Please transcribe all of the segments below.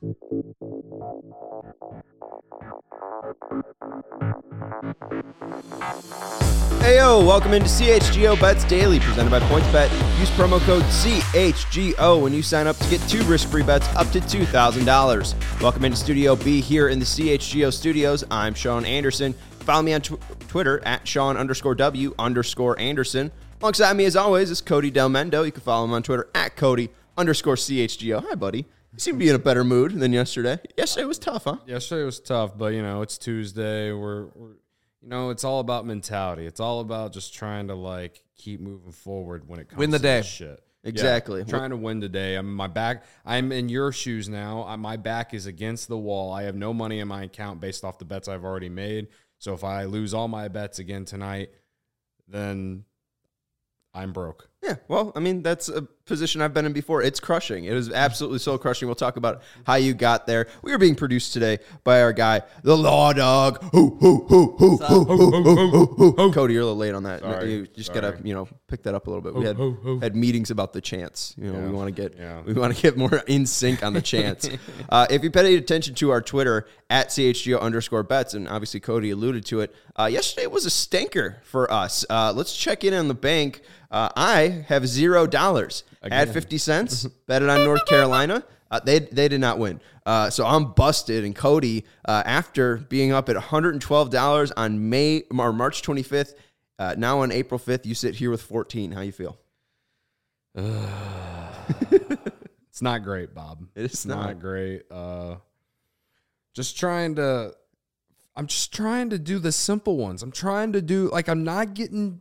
Hey yo, welcome into CHGO Bets Daily, presented by PointsBet. Use promo code CHGO when you sign up to get 2 risk-free bets up to $2,000. Welcome into Studio B here in the CHGO studios. I'm Sean Anderson. Follow me on Twitter at Sean_W_Anderson. Alongside me, as always, is Cody Del Mendo. You can follow him on Twitter at Cody_CHGO. Hi, buddy. You seem to be in a better mood than yesterday. Yesterday was tough, huh? Yesterday was tough, but, it's Tuesday. We're it's all about mentality. It's all about just trying to, keep moving forward when it comes to this shit. Exactly. Yeah, trying to win today. I'm in your shoes now. My back is against the wall. I have no money in my account based off the bets I've already made. So if I lose all my bets again tonight, then I'm broke. Yeah, well, that's a position I've been in before. It's crushing. It is absolutely so crushing. We'll talk about how you got there. We are being produced today by our guy, the Law Dog. Cody, you're a little late on that. Sorry. You just gotta, pick that up a little bit. We had meetings about the chants. We want to get more in sync on the chants. If you paid attention to our Twitter at CHGO_bets, and obviously Cody alluded to it, yesterday was a stinker for us. Let's check in on the bank. I have $0. Had 50 cents, bet it on North Carolina. They did not win. So I'm busted. And Cody, after being up at $112 on March 25th, now on April 5th, you sit here with 14. How you feel? It's not great, Bob. It's not great. I'm just trying to do the simple ones. I'm trying to do, I'm not getting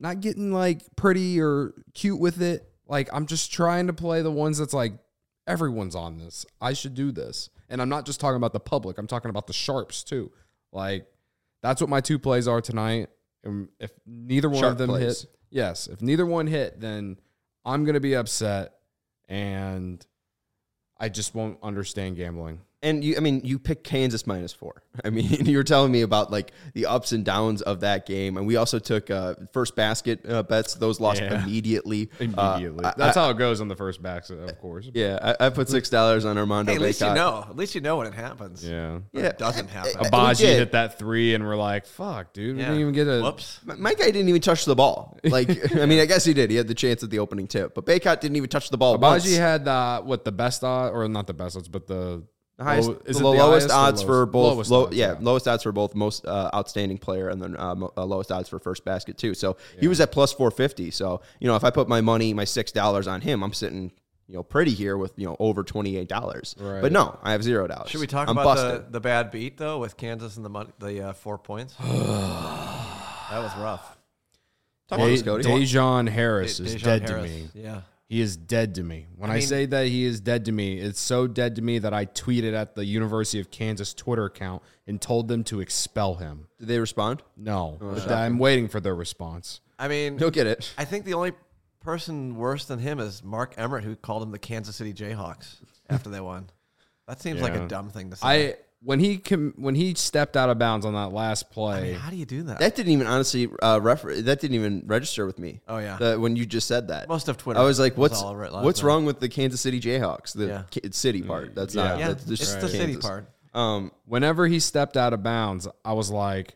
pretty or cute with it. I'm just trying to play the ones that's everyone's on this. I should do this. And I'm not just talking about the public. I'm talking about the sharps too. That's what my 2 plays are tonight. And if neither one of them hit, if neither one hit, then I'm going to be upset and I just won't understand gambling. And you picked Kansas -4. You were telling me about the ups and downs of that game, and we also took first basket bets. Those lost immediately. That's how it goes on the first basket, of course. Yeah, I put $6 on Armando. Hey, at least you know when it happens. Yeah, it doesn't happen. Abaji hit that 3, and we're like, "Fuck, dude, we didn't even get a." Whoops. My guy didn't even touch the ball. I guess he did. He had the chance at the opening tip, but Baycott didn't even touch the ball. Abaji had the best odds, or not the best odds, but the highest, lowest odds for both. Lowest odds for both most outstanding player and then lowest odds for first basket too. So he was at +450. So if I put my $6 on him, I'm sitting pretty here with over $28. Right. But no, I have $0. Should we talk about the bad beat though with Kansas and the 4 points? That was rough. Talk about this, Cody. Dejon Harris is dead to me. Yeah. He is dead to me. When I say that he is dead to me, it's so dead to me that I tweeted at the University of Kansas Twitter account and told them to expel him. Did they respond? No. But I'm waiting for their response. He'll get it. I think the only person worse than him is Mark Emmert, who called him the Kansas City Jayhawks after they won. That seems like a dumb thing to say. When he stepped out of bounds on that last play, how do you do that? That didn't even honestly that didn't even register with me. Oh yeah, when you just said that, most of Twitter. I was like, what's wrong with the Kansas City Jayhawks? The city part. That's not. Yeah, that's it's the city part. Whenever he stepped out of bounds, I was like,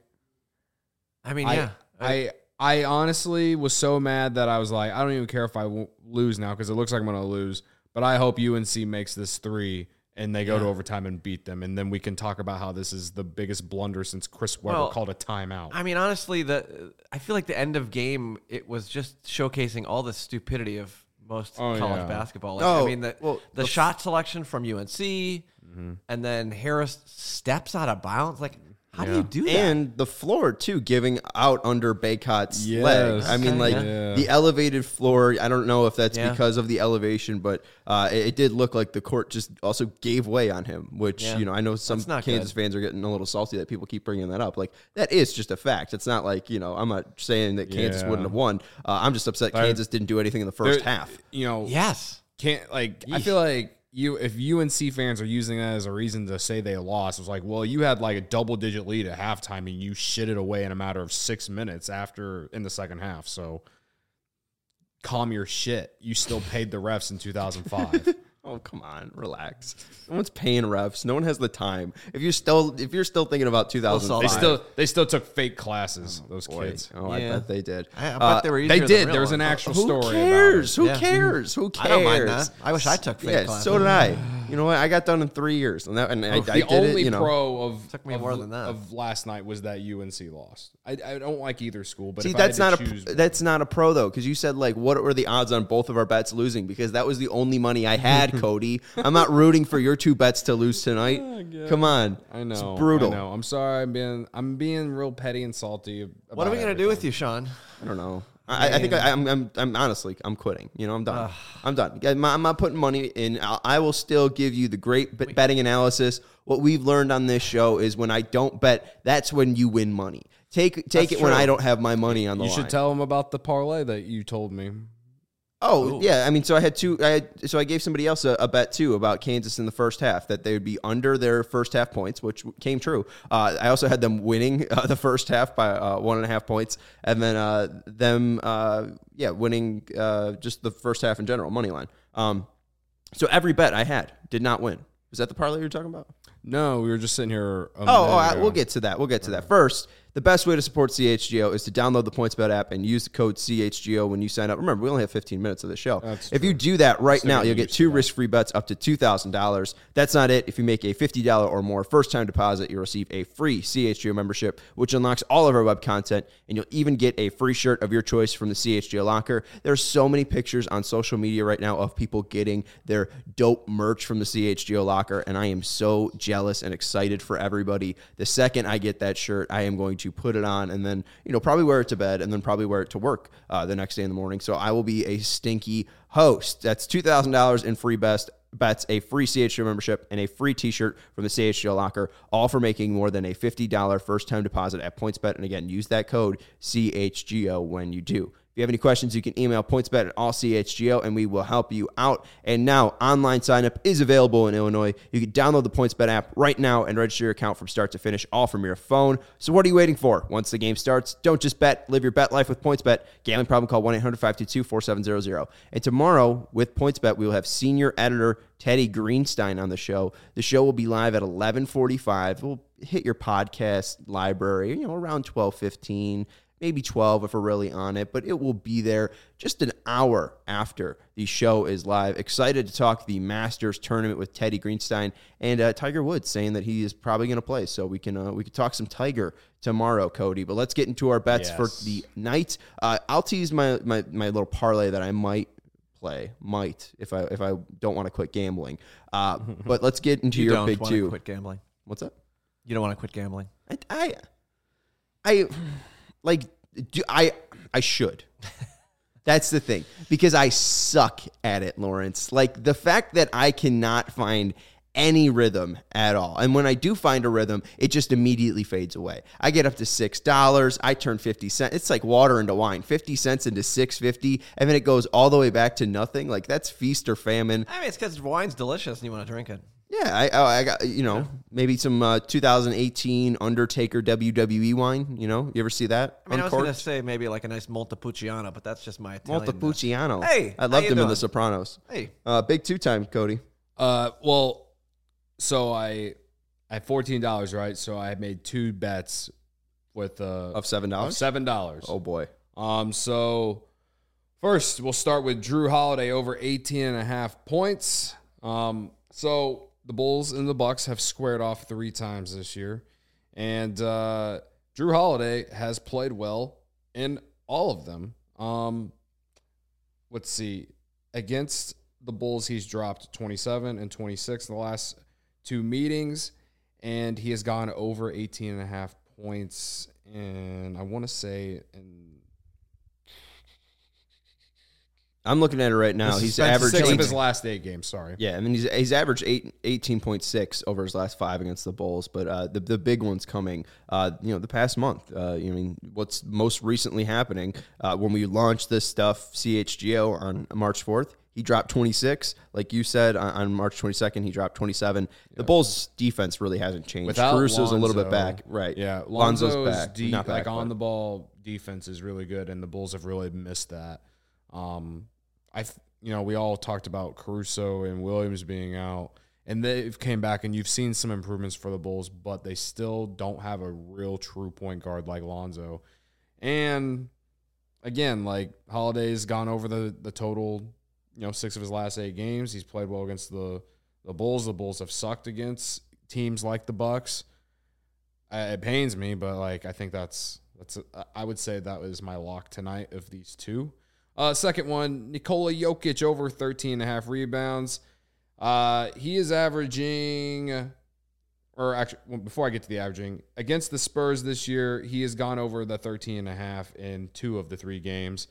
I honestly was so mad that I was like, I don't even care if I lose now because it looks like I'm going to lose. But I hope UNC makes this 3. And they go to overtime and beat them. And then we can talk about how this is the biggest blunder since Chris Webber called a timeout. Honestly, I feel like the end of game, it was just showcasing all the stupidity of most college basketball. The shot selection from UNC, and then Harris steps out of bounds. How do you do that? And the floor, too, giving out under Baycott's leg. The elevated floor, I don't know if that's because of the elevation, but it did look like the court just also gave way on him, which, I know some Kansas fans are getting a little salty that people keep bringing that up. That is just a fact. It's not I'm not saying that Kansas wouldn't have won. I'm just upset Kansas didn't do anything in the first half. Yes. I feel like if UNC fans are using that as a reason to say they lost, it was you had a double-digit lead at halftime and you shit it away in a matter of 6 minutes in the second half. So calm your shit. You still paid the refs in 2005. Oh, come on, relax. No one's paying refs. No one has the time. If you're still thinking about 2005, they still took fake classes. Those kids. Oh, I bet they did. I bet they were. They did. There was an actual story. Who cares? About it. Who cares? Who cares? I don't mind that. I wish I took fake classes. So did I. You know what? I got done in 3 years, and I did it. The only pro of took me more than that of last night was that UNC lost. I don't like either school, but see, that's not a pro though, because you said like, what were the odds on both of our bets losing? Because that was the only money I had, Cody. I'm not rooting for your 2 bets to lose tonight. Come on, I know, it's brutal. I know. I'm sorry. I'm being real petty and salty. What are we gonna do with you, Sean? I don't know. I think I'm honestly, I'm quitting. I'm done. I'm done. I'm not putting money in. I will still give you the great betting analysis. What we've learned on this show is when I don't bet, that's when you win money. Take it when I don't have my money on the line. You should tell them about the parlay that you told me. Oh, yeah. I mean, so I had two. So I gave somebody else a bet, too, about Kansas in the first half, that they would be under their first half points, which came true. I also had them winning the first half by 1.5 points, and then winning just the first half in general, money line. So every bet I had did not win. Was that the parlay you were talking about? No, we were just sitting here. We'll get to that. First, the best way to support CHGO is to download the PointsBet app and use the code CHGO when you sign up. Remember, we only have 15 minutes of the show. If you do that right now, you'll get 2 risk-free bets up to $2,000. That's not it. If you make a $50 or more first-time deposit, you'll receive a free CHGO membership, which unlocks all of our web content, and you'll even get a free shirt of your choice from the CHGO locker. There's so many pictures on social media right now of people getting their dope merch from the CHGO locker, and I am so jealous and excited for everybody. The second I get that shirt, I am going to put it on and then, probably wear it to bed and then probably wear it to work the next day in the morning. So I will be a stinky host. That's $2,000 in free bets, a free CHGO membership, and a free t-shirt from the CHGO locker, all for making more than a $50 first-time deposit at PointsBet. And again, use that code CHGO when you do. If you have any questions, you can email pointsbet@allchgo, and we will help you out. And now, online signup is available in Illinois. You can download the PointsBet app right now and register your account from start to finish, all from your phone. So what are you waiting for? Once the game starts, don't just bet. Live your bet life with PointsBet. Gambling problem, call 1-800-522-4700. And tomorrow, with PointsBet, we will have senior editor Teddy Greenstein on the show. The show will be live at 11:45. We'll hit your podcast library, around 12:15. Maybe 12 if we're really on it, but it will be there just an hour after the show is live. Excited to talk the Masters tournament with Teddy Greenstein and Tiger Woods, saying that he is probably going to play. So we can talk some Tiger tomorrow, Cody. But let's get into our bets for the night. I'll tease my little parlay that I might play. If I don't want to quit gambling. But let's get into your big two. You don't want to quit gambling. What's that? You don't want to quit gambling. I should. That's the thing. Because I suck at it, Lawrence. Like, the fact that I cannot find any rhythm at all. And when I do find a rhythm, it just immediately fades away. I get up to $6. I turn 50 cents. It's like water into wine. 50 cents into $6.50, and then it goes all the way back to nothing. Like, that's feast or famine. I mean, it's because wine's delicious and you want to drink it. Yeah, I got, maybe some 2018 Undertaker WWE wine. You ever see that? I mean, I was going to say maybe like a nice Montepulciano, but that's just my Italian. Montepulciano. Hey, I loved him in The Sopranos. Hey. Big 2-time, Cody. So I had $14, right? So I made 2 bets with of $7? Of $7. Oh boy. So first we'll start with Drew Holiday over 18.5 points. So the Bulls and the Bucks have squared off 3 times this year, and Drew Holiday has played well in all of them. Let's see. Against the Bulls, he's dropped 27 and 26 in the last 2 meetings, and he has gone over 18.5 points, and I want to say I'm looking at it right now. He's averaged 6 of his last 8 games. Sorry. Yeah, I mean he's averaged 18.6 over his last 5 against the Bulls, but the big one's coming. The past month. What's most recently happening when we launched this stuff, CHGO on March 4th. He dropped 26. Like you said, on March 22nd, he dropped 27. The Bulls' defense really hasn't changed. Caruso's a little bit back. Right. Yeah. Lonzo's back. Not back, on the ball defense is really good, and the Bulls have really missed that. we all talked about Caruso and Williams being out, and they've came back, and you've seen some improvements for the Bulls, but they still don't have a real true point guard like Lonzo. And again, like Holiday's gone over the total, 6 of his last 8 games. He's played well against the Bulls. The Bulls have sucked against teams like the Bucks. It pains me, but like I think I would say that was my lock tonight of these two. Second one, Nikola Jokic over 13.5 rebounds. He is averaging, or actually, before I get to the averaging, against the Spurs this year, he has gone over the 13.5 in 2 of the 3 games.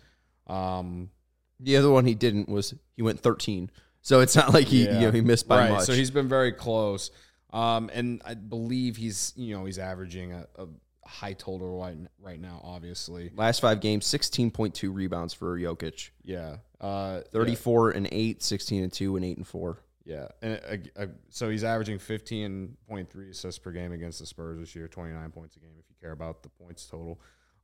The other one he didn't was he went 13. So it's not like he missed by much. So he's been very close. And I believe he's averaging a high total right now, obviously. Last 5 games, 16.2 rebounds for Jokic. Yeah. 34 and 8, 16 and 2, and 8 and 4. Yeah. And so he's averaging 15.3 assists per game against the Spurs this year, 29 points a game if you care about the points total.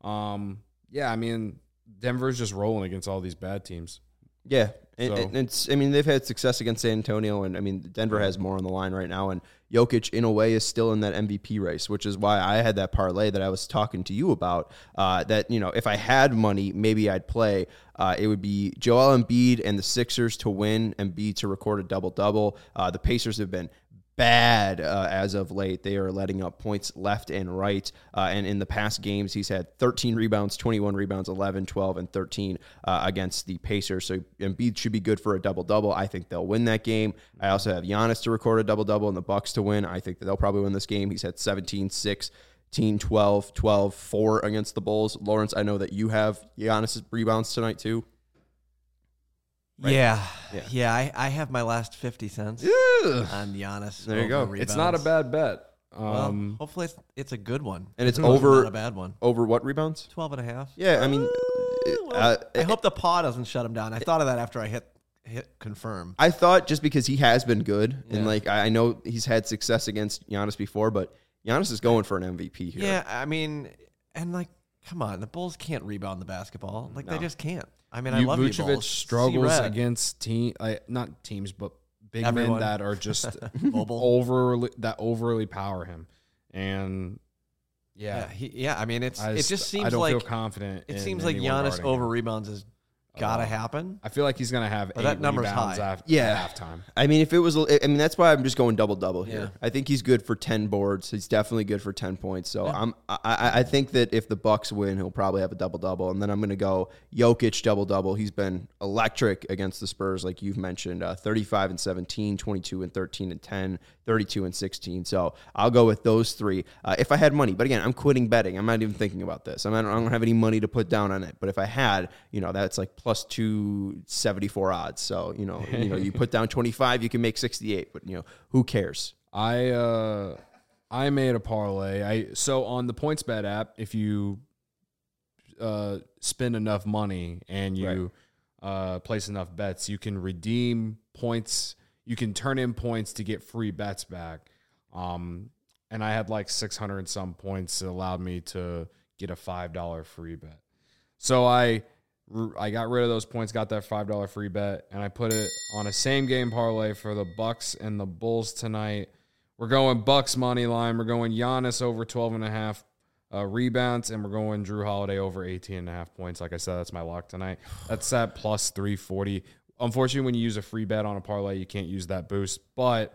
I mean, Denver's just rolling against all these bad teams. Yeah. And it's, I mean, they've had success against San Antonio, and I mean, Denver has more on the line right now, and Jokic, in a way, is still in that MVP race, which is why I had that parlay that I was talking to you about, that, if I had money, maybe I'd play. It would be Joel Embiid and the Sixers to win, Embiid to record a double-double. The Pacers have been bad as of late. They are letting up points left and right. And in the past games, he's had 13 rebounds, 21 rebounds, 11, 12, and 13 against the Pacers. So Embiid should be good for a double-double. I think they'll win that game. I also have Giannis to record a double-double and the Bucks to win. I think that they'll probably win this game. He's had 17, 6, 12, 12, 4 against the Bulls. Lawrence, I know that you have Giannis' rebounds tonight too. Right? Yeah. I have my last 50 cents on Giannis. There you go. Rebounds. It's not a bad bet. Well, hopefully it's a good one. And it's over not a bad one. Over what rebounds? 12.5. Yeah, I mean, I hope the paw doesn't shut him down. I thought of that after I hit confirm. I thought just because he has been good, and like I know he's had success against Giannis before, but Giannis is going for an MVP here. Yeah, I mean, and like, come on, the Bulls can't rebound the basketball. Like, they just can't. I mean, I love you, Bulls. Struggles against not teams, but big men that are just overly power him, and I mean, it just seems I don't like feel confident. It seems like Giannis over rebounds is gotta happen. I feel like he's gonna have 8 that number's rebounds high. at halftime. I mean, if it was, I mean, that's why I'm just going double here. I think he's good for 10 boards. He's definitely good for 10 points. So I think that if the Bucks win, he'll probably have a double. And then I'm gonna go Jokic double. He's been electric against the Spurs, like you've mentioned, 35 and 17, 22 and 13 and 10, 32 and 16. So I'll go with those 3 if I had money. But again, I'm quitting betting. I'm not even thinking about this. I don't have any money to put down on it. But if I had, that's like plus 274 odds. So, you put down 25, you can make 68, but who cares? I made a parlay. So on the PointsBet app, if you spend enough money and you place enough bets, you can redeem points. You can turn in points to get free bets back. And I had like 600 and some points that allowed me to get a $5 free bet. So I got rid of those points, got that $5 free bet, and I put it on a same-game parlay for the Bucks and the Bulls tonight. We're going Bucks money line. We're going Giannis over 12.5 rebounds, and we're going Jrue Holiday over 18.5 points. Like I said, that's my lock tonight. That's at plus 340. Unfortunately, when you use a free bet on a parlay, you can't use that boost, but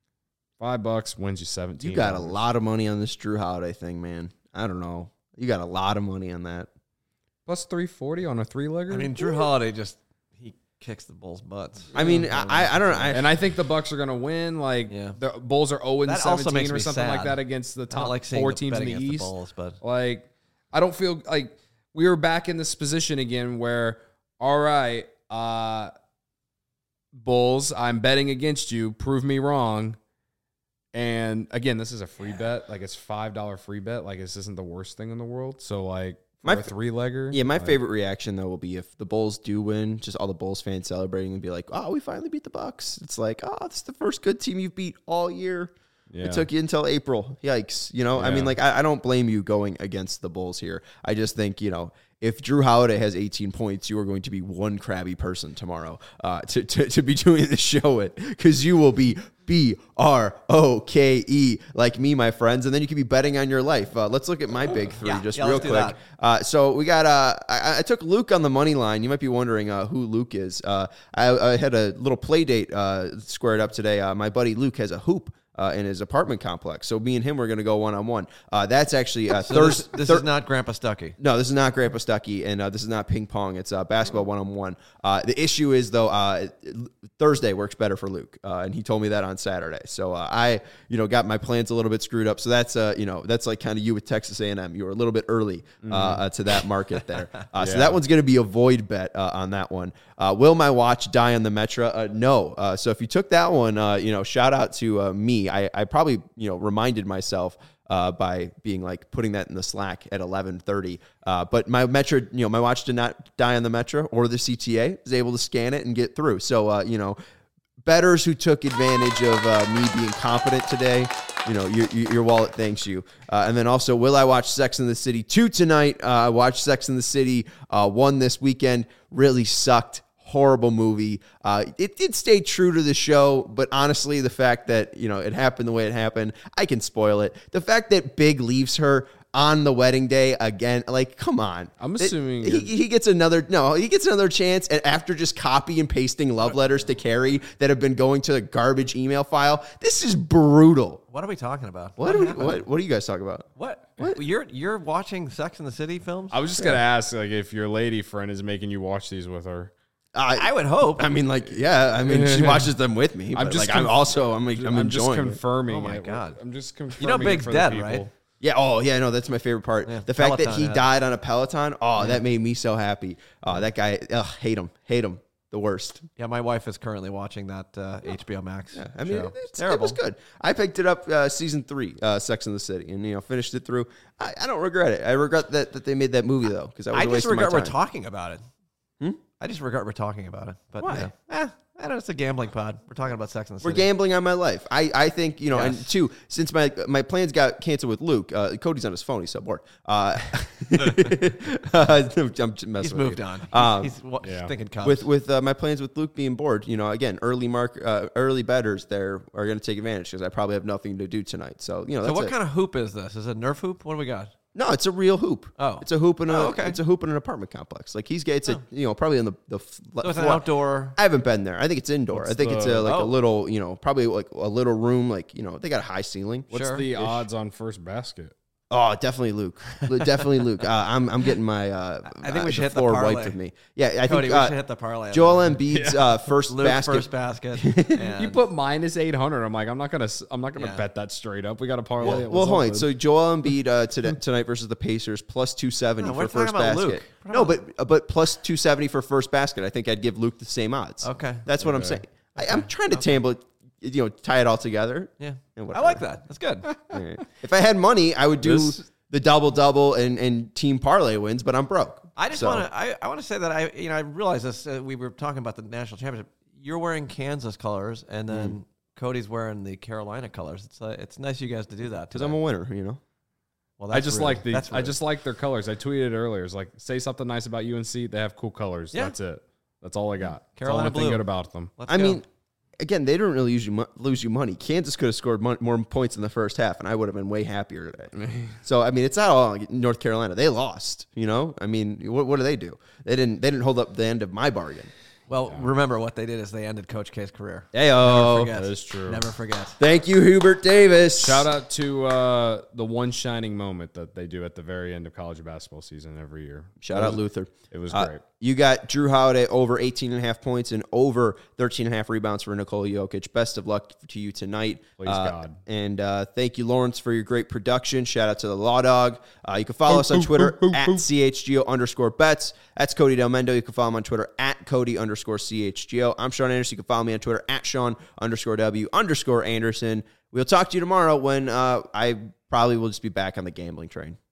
$5 wins you 17. You got a lot of money on this Jrue Holiday thing, man. I don't know. You got a lot of money on that. Plus 340 on a 3-legger? I mean, Jrue Holiday he kicks the Bulls' butts. I mean, I don't know. And I think the Bucks are going to win. Like, the Bulls are 0-17 or something like that against the top 4 teams in the East. Bulls, but like, I don't feel like we were back in this position again where, all right, Bulls, I'm betting against you. Prove me wrong. And again, this is a free bet. Like, it's $5 free bet. Like, this isn't the worst thing in the world. So, like, my 3-legger. Yeah, my favorite reaction though will be if the Bulls do win, just all the Bulls fans celebrating and be like, "Oh, we finally beat the Bucks." It's like, "Oh, this is the first good team you've beat all year." Yeah. It took you until April. Yikes. I mean, like, I don't blame you going against the Bulls here. I just think, if Drew Holiday has 18 points, you are going to be one crabby person tomorrow to be doing the show with, because you will be BROKE like me, my friends, and then you can be betting on your life. Let's look at my big three real quick. So we got I took Luke on the money line. You might be wondering who Luke is. I had a little play date squared up today. My buddy Luke has a hoop in his apartment complex. So me and him were going to go one-on-one. That's actually Thursday. This is not Grandpa Stuckey. No, this is not Grandpa Stuckey, and this is not ping pong. It's basketball one-on-one. The issue is, though, Thursday works better for Luke, and he told me that on Saturday. So I, got my plans a little bit screwed up. So that's, that's like kind of you with Texas A&M. You were a little bit early to that market there. So that one's going to be a void bet on that one. Will my watch die on the Metra? No. So if you took that one, shout out to me. I probably, reminded myself by being like putting that in the Slack at 11:30. But my Metra, my watch did not die on the Metra or the CTA. I was able to scan it and get through. So, bettors who took advantage of me being competent today, your wallet thanks you. And then also, will I watch Sex and the City 2 tonight? I watched Sex and the City 1 this weekend. Really sucked. Horrible movie. It did stay true to the show, but honestly, the fact that, it happened the way it happened, I can spoil it. The fact that Big leaves her on the wedding day again, like, come on. I'm assuming he gets another chance, and after just copy and pasting love letters to Carrie that have been going to the garbage email file. This is brutal. What are we talking about? What are you guys talking about? What? You're watching Sex and the City films? I was just gonna ask, like, if your lady friend is making you watch these with her. I would hope. I mean, she watches them with me. I'm just, I'm enjoying. Just confirming. Oh my God! I'm just confirming. Big's dead, right? Yeah. Oh, yeah. No, that's my favorite part. Yeah, the fact that he died on a Peloton. Oh, that made me so happy. That guy. Hate him. The worst. Yeah, my wife is currently watching that HBO Max. Yeah, I mean, it was good. I picked it up season 3, Sex and the City, and finished it through. I don't regret it. I regret that they made that movie though, because I just regret we're talking about it. I just regret we're talking about it. But why? I don't know, it's a gambling pod. We're talking about Sex and the City. We're gambling on my life. I think, yes. And two, since my plans got canceled with Luke, Cody's on his phone. He's so bored. He's moved on. He's thinking Cubs. With my plans with Luke being bored, again, early bettors there are going to take advantage because I probably have nothing to do tonight. So, that's what kind of hoop is this? Is it a Nerf hoop? What do we got? No, it's a real hoop. Oh, it's a hoop in it's a hoop in an apartment complex. Like probably in the so it's an outdoor. I haven't been there. I think it's indoor. I think it's a little, probably like a little room. Like they got a high ceiling. What's the odds on first basket? Oh, definitely Luke. Definitely Luke. I'm getting my. I think we should hit the parlay. Wiped with me. Yeah, I Cody, think we should hit the parlay. Joel Embiid's first basket. First basket. You put minus 800. I'm like, I'm not gonna bet that straight up. We got a parlay. Well, hold on. So Joel Embiid tonight versus the Pacers plus 270 for first basket. No, but plus 270 for first basket. I think I'd give Luke the same odds. Okay, that's what I'm saying. I'm trying to tie it all together. Yeah. I like that. That's good. Right. If I had money, I would do the double and team parlay wins, but I'm broke. I just want to say that I realize this. We were talking about the national championship. You're wearing Kansas colors, and then Cody's wearing the Carolina colors. It's nice you guys to do that because I'm a winner. Well, I just like their colors. I tweeted earlier. It's like, say something nice about UNC. They have cool colors. Yeah. That's it. That's all I got. Carolina blue. Good about them. I mean, again, they didn't really lose you money. Kansas could have scored more points in the first half, and I would have been way happier today. So, I mean, it's not all North Carolina. They lost, I mean, what do they do? They didn't hold up the end of my bargain. Well, remember what they did is they ended Coach K's career. Heyo. That is true. Never forget. Thank you, Hubert Davis. Shout out to the one shining moment that they do at the very end of college basketball season every year. Shout out Luther. It was great. You got Drew Holiday over 18.5 points and over 13.5 rebounds for Nikola Jokic. Best of luck to you tonight. Please, God. And thank you, Lawrence, for your great production. Shout out to the Law Dog. You can follow us on Twitter at CHGO_bets. That's Cody Del Mendo. You can follow him on Twitter at Cody_CHGO. I'm Sean Anderson. You can follow me on Twitter at Sean_W_Anderson. We'll talk to you tomorrow when I probably will just be back on the gambling train.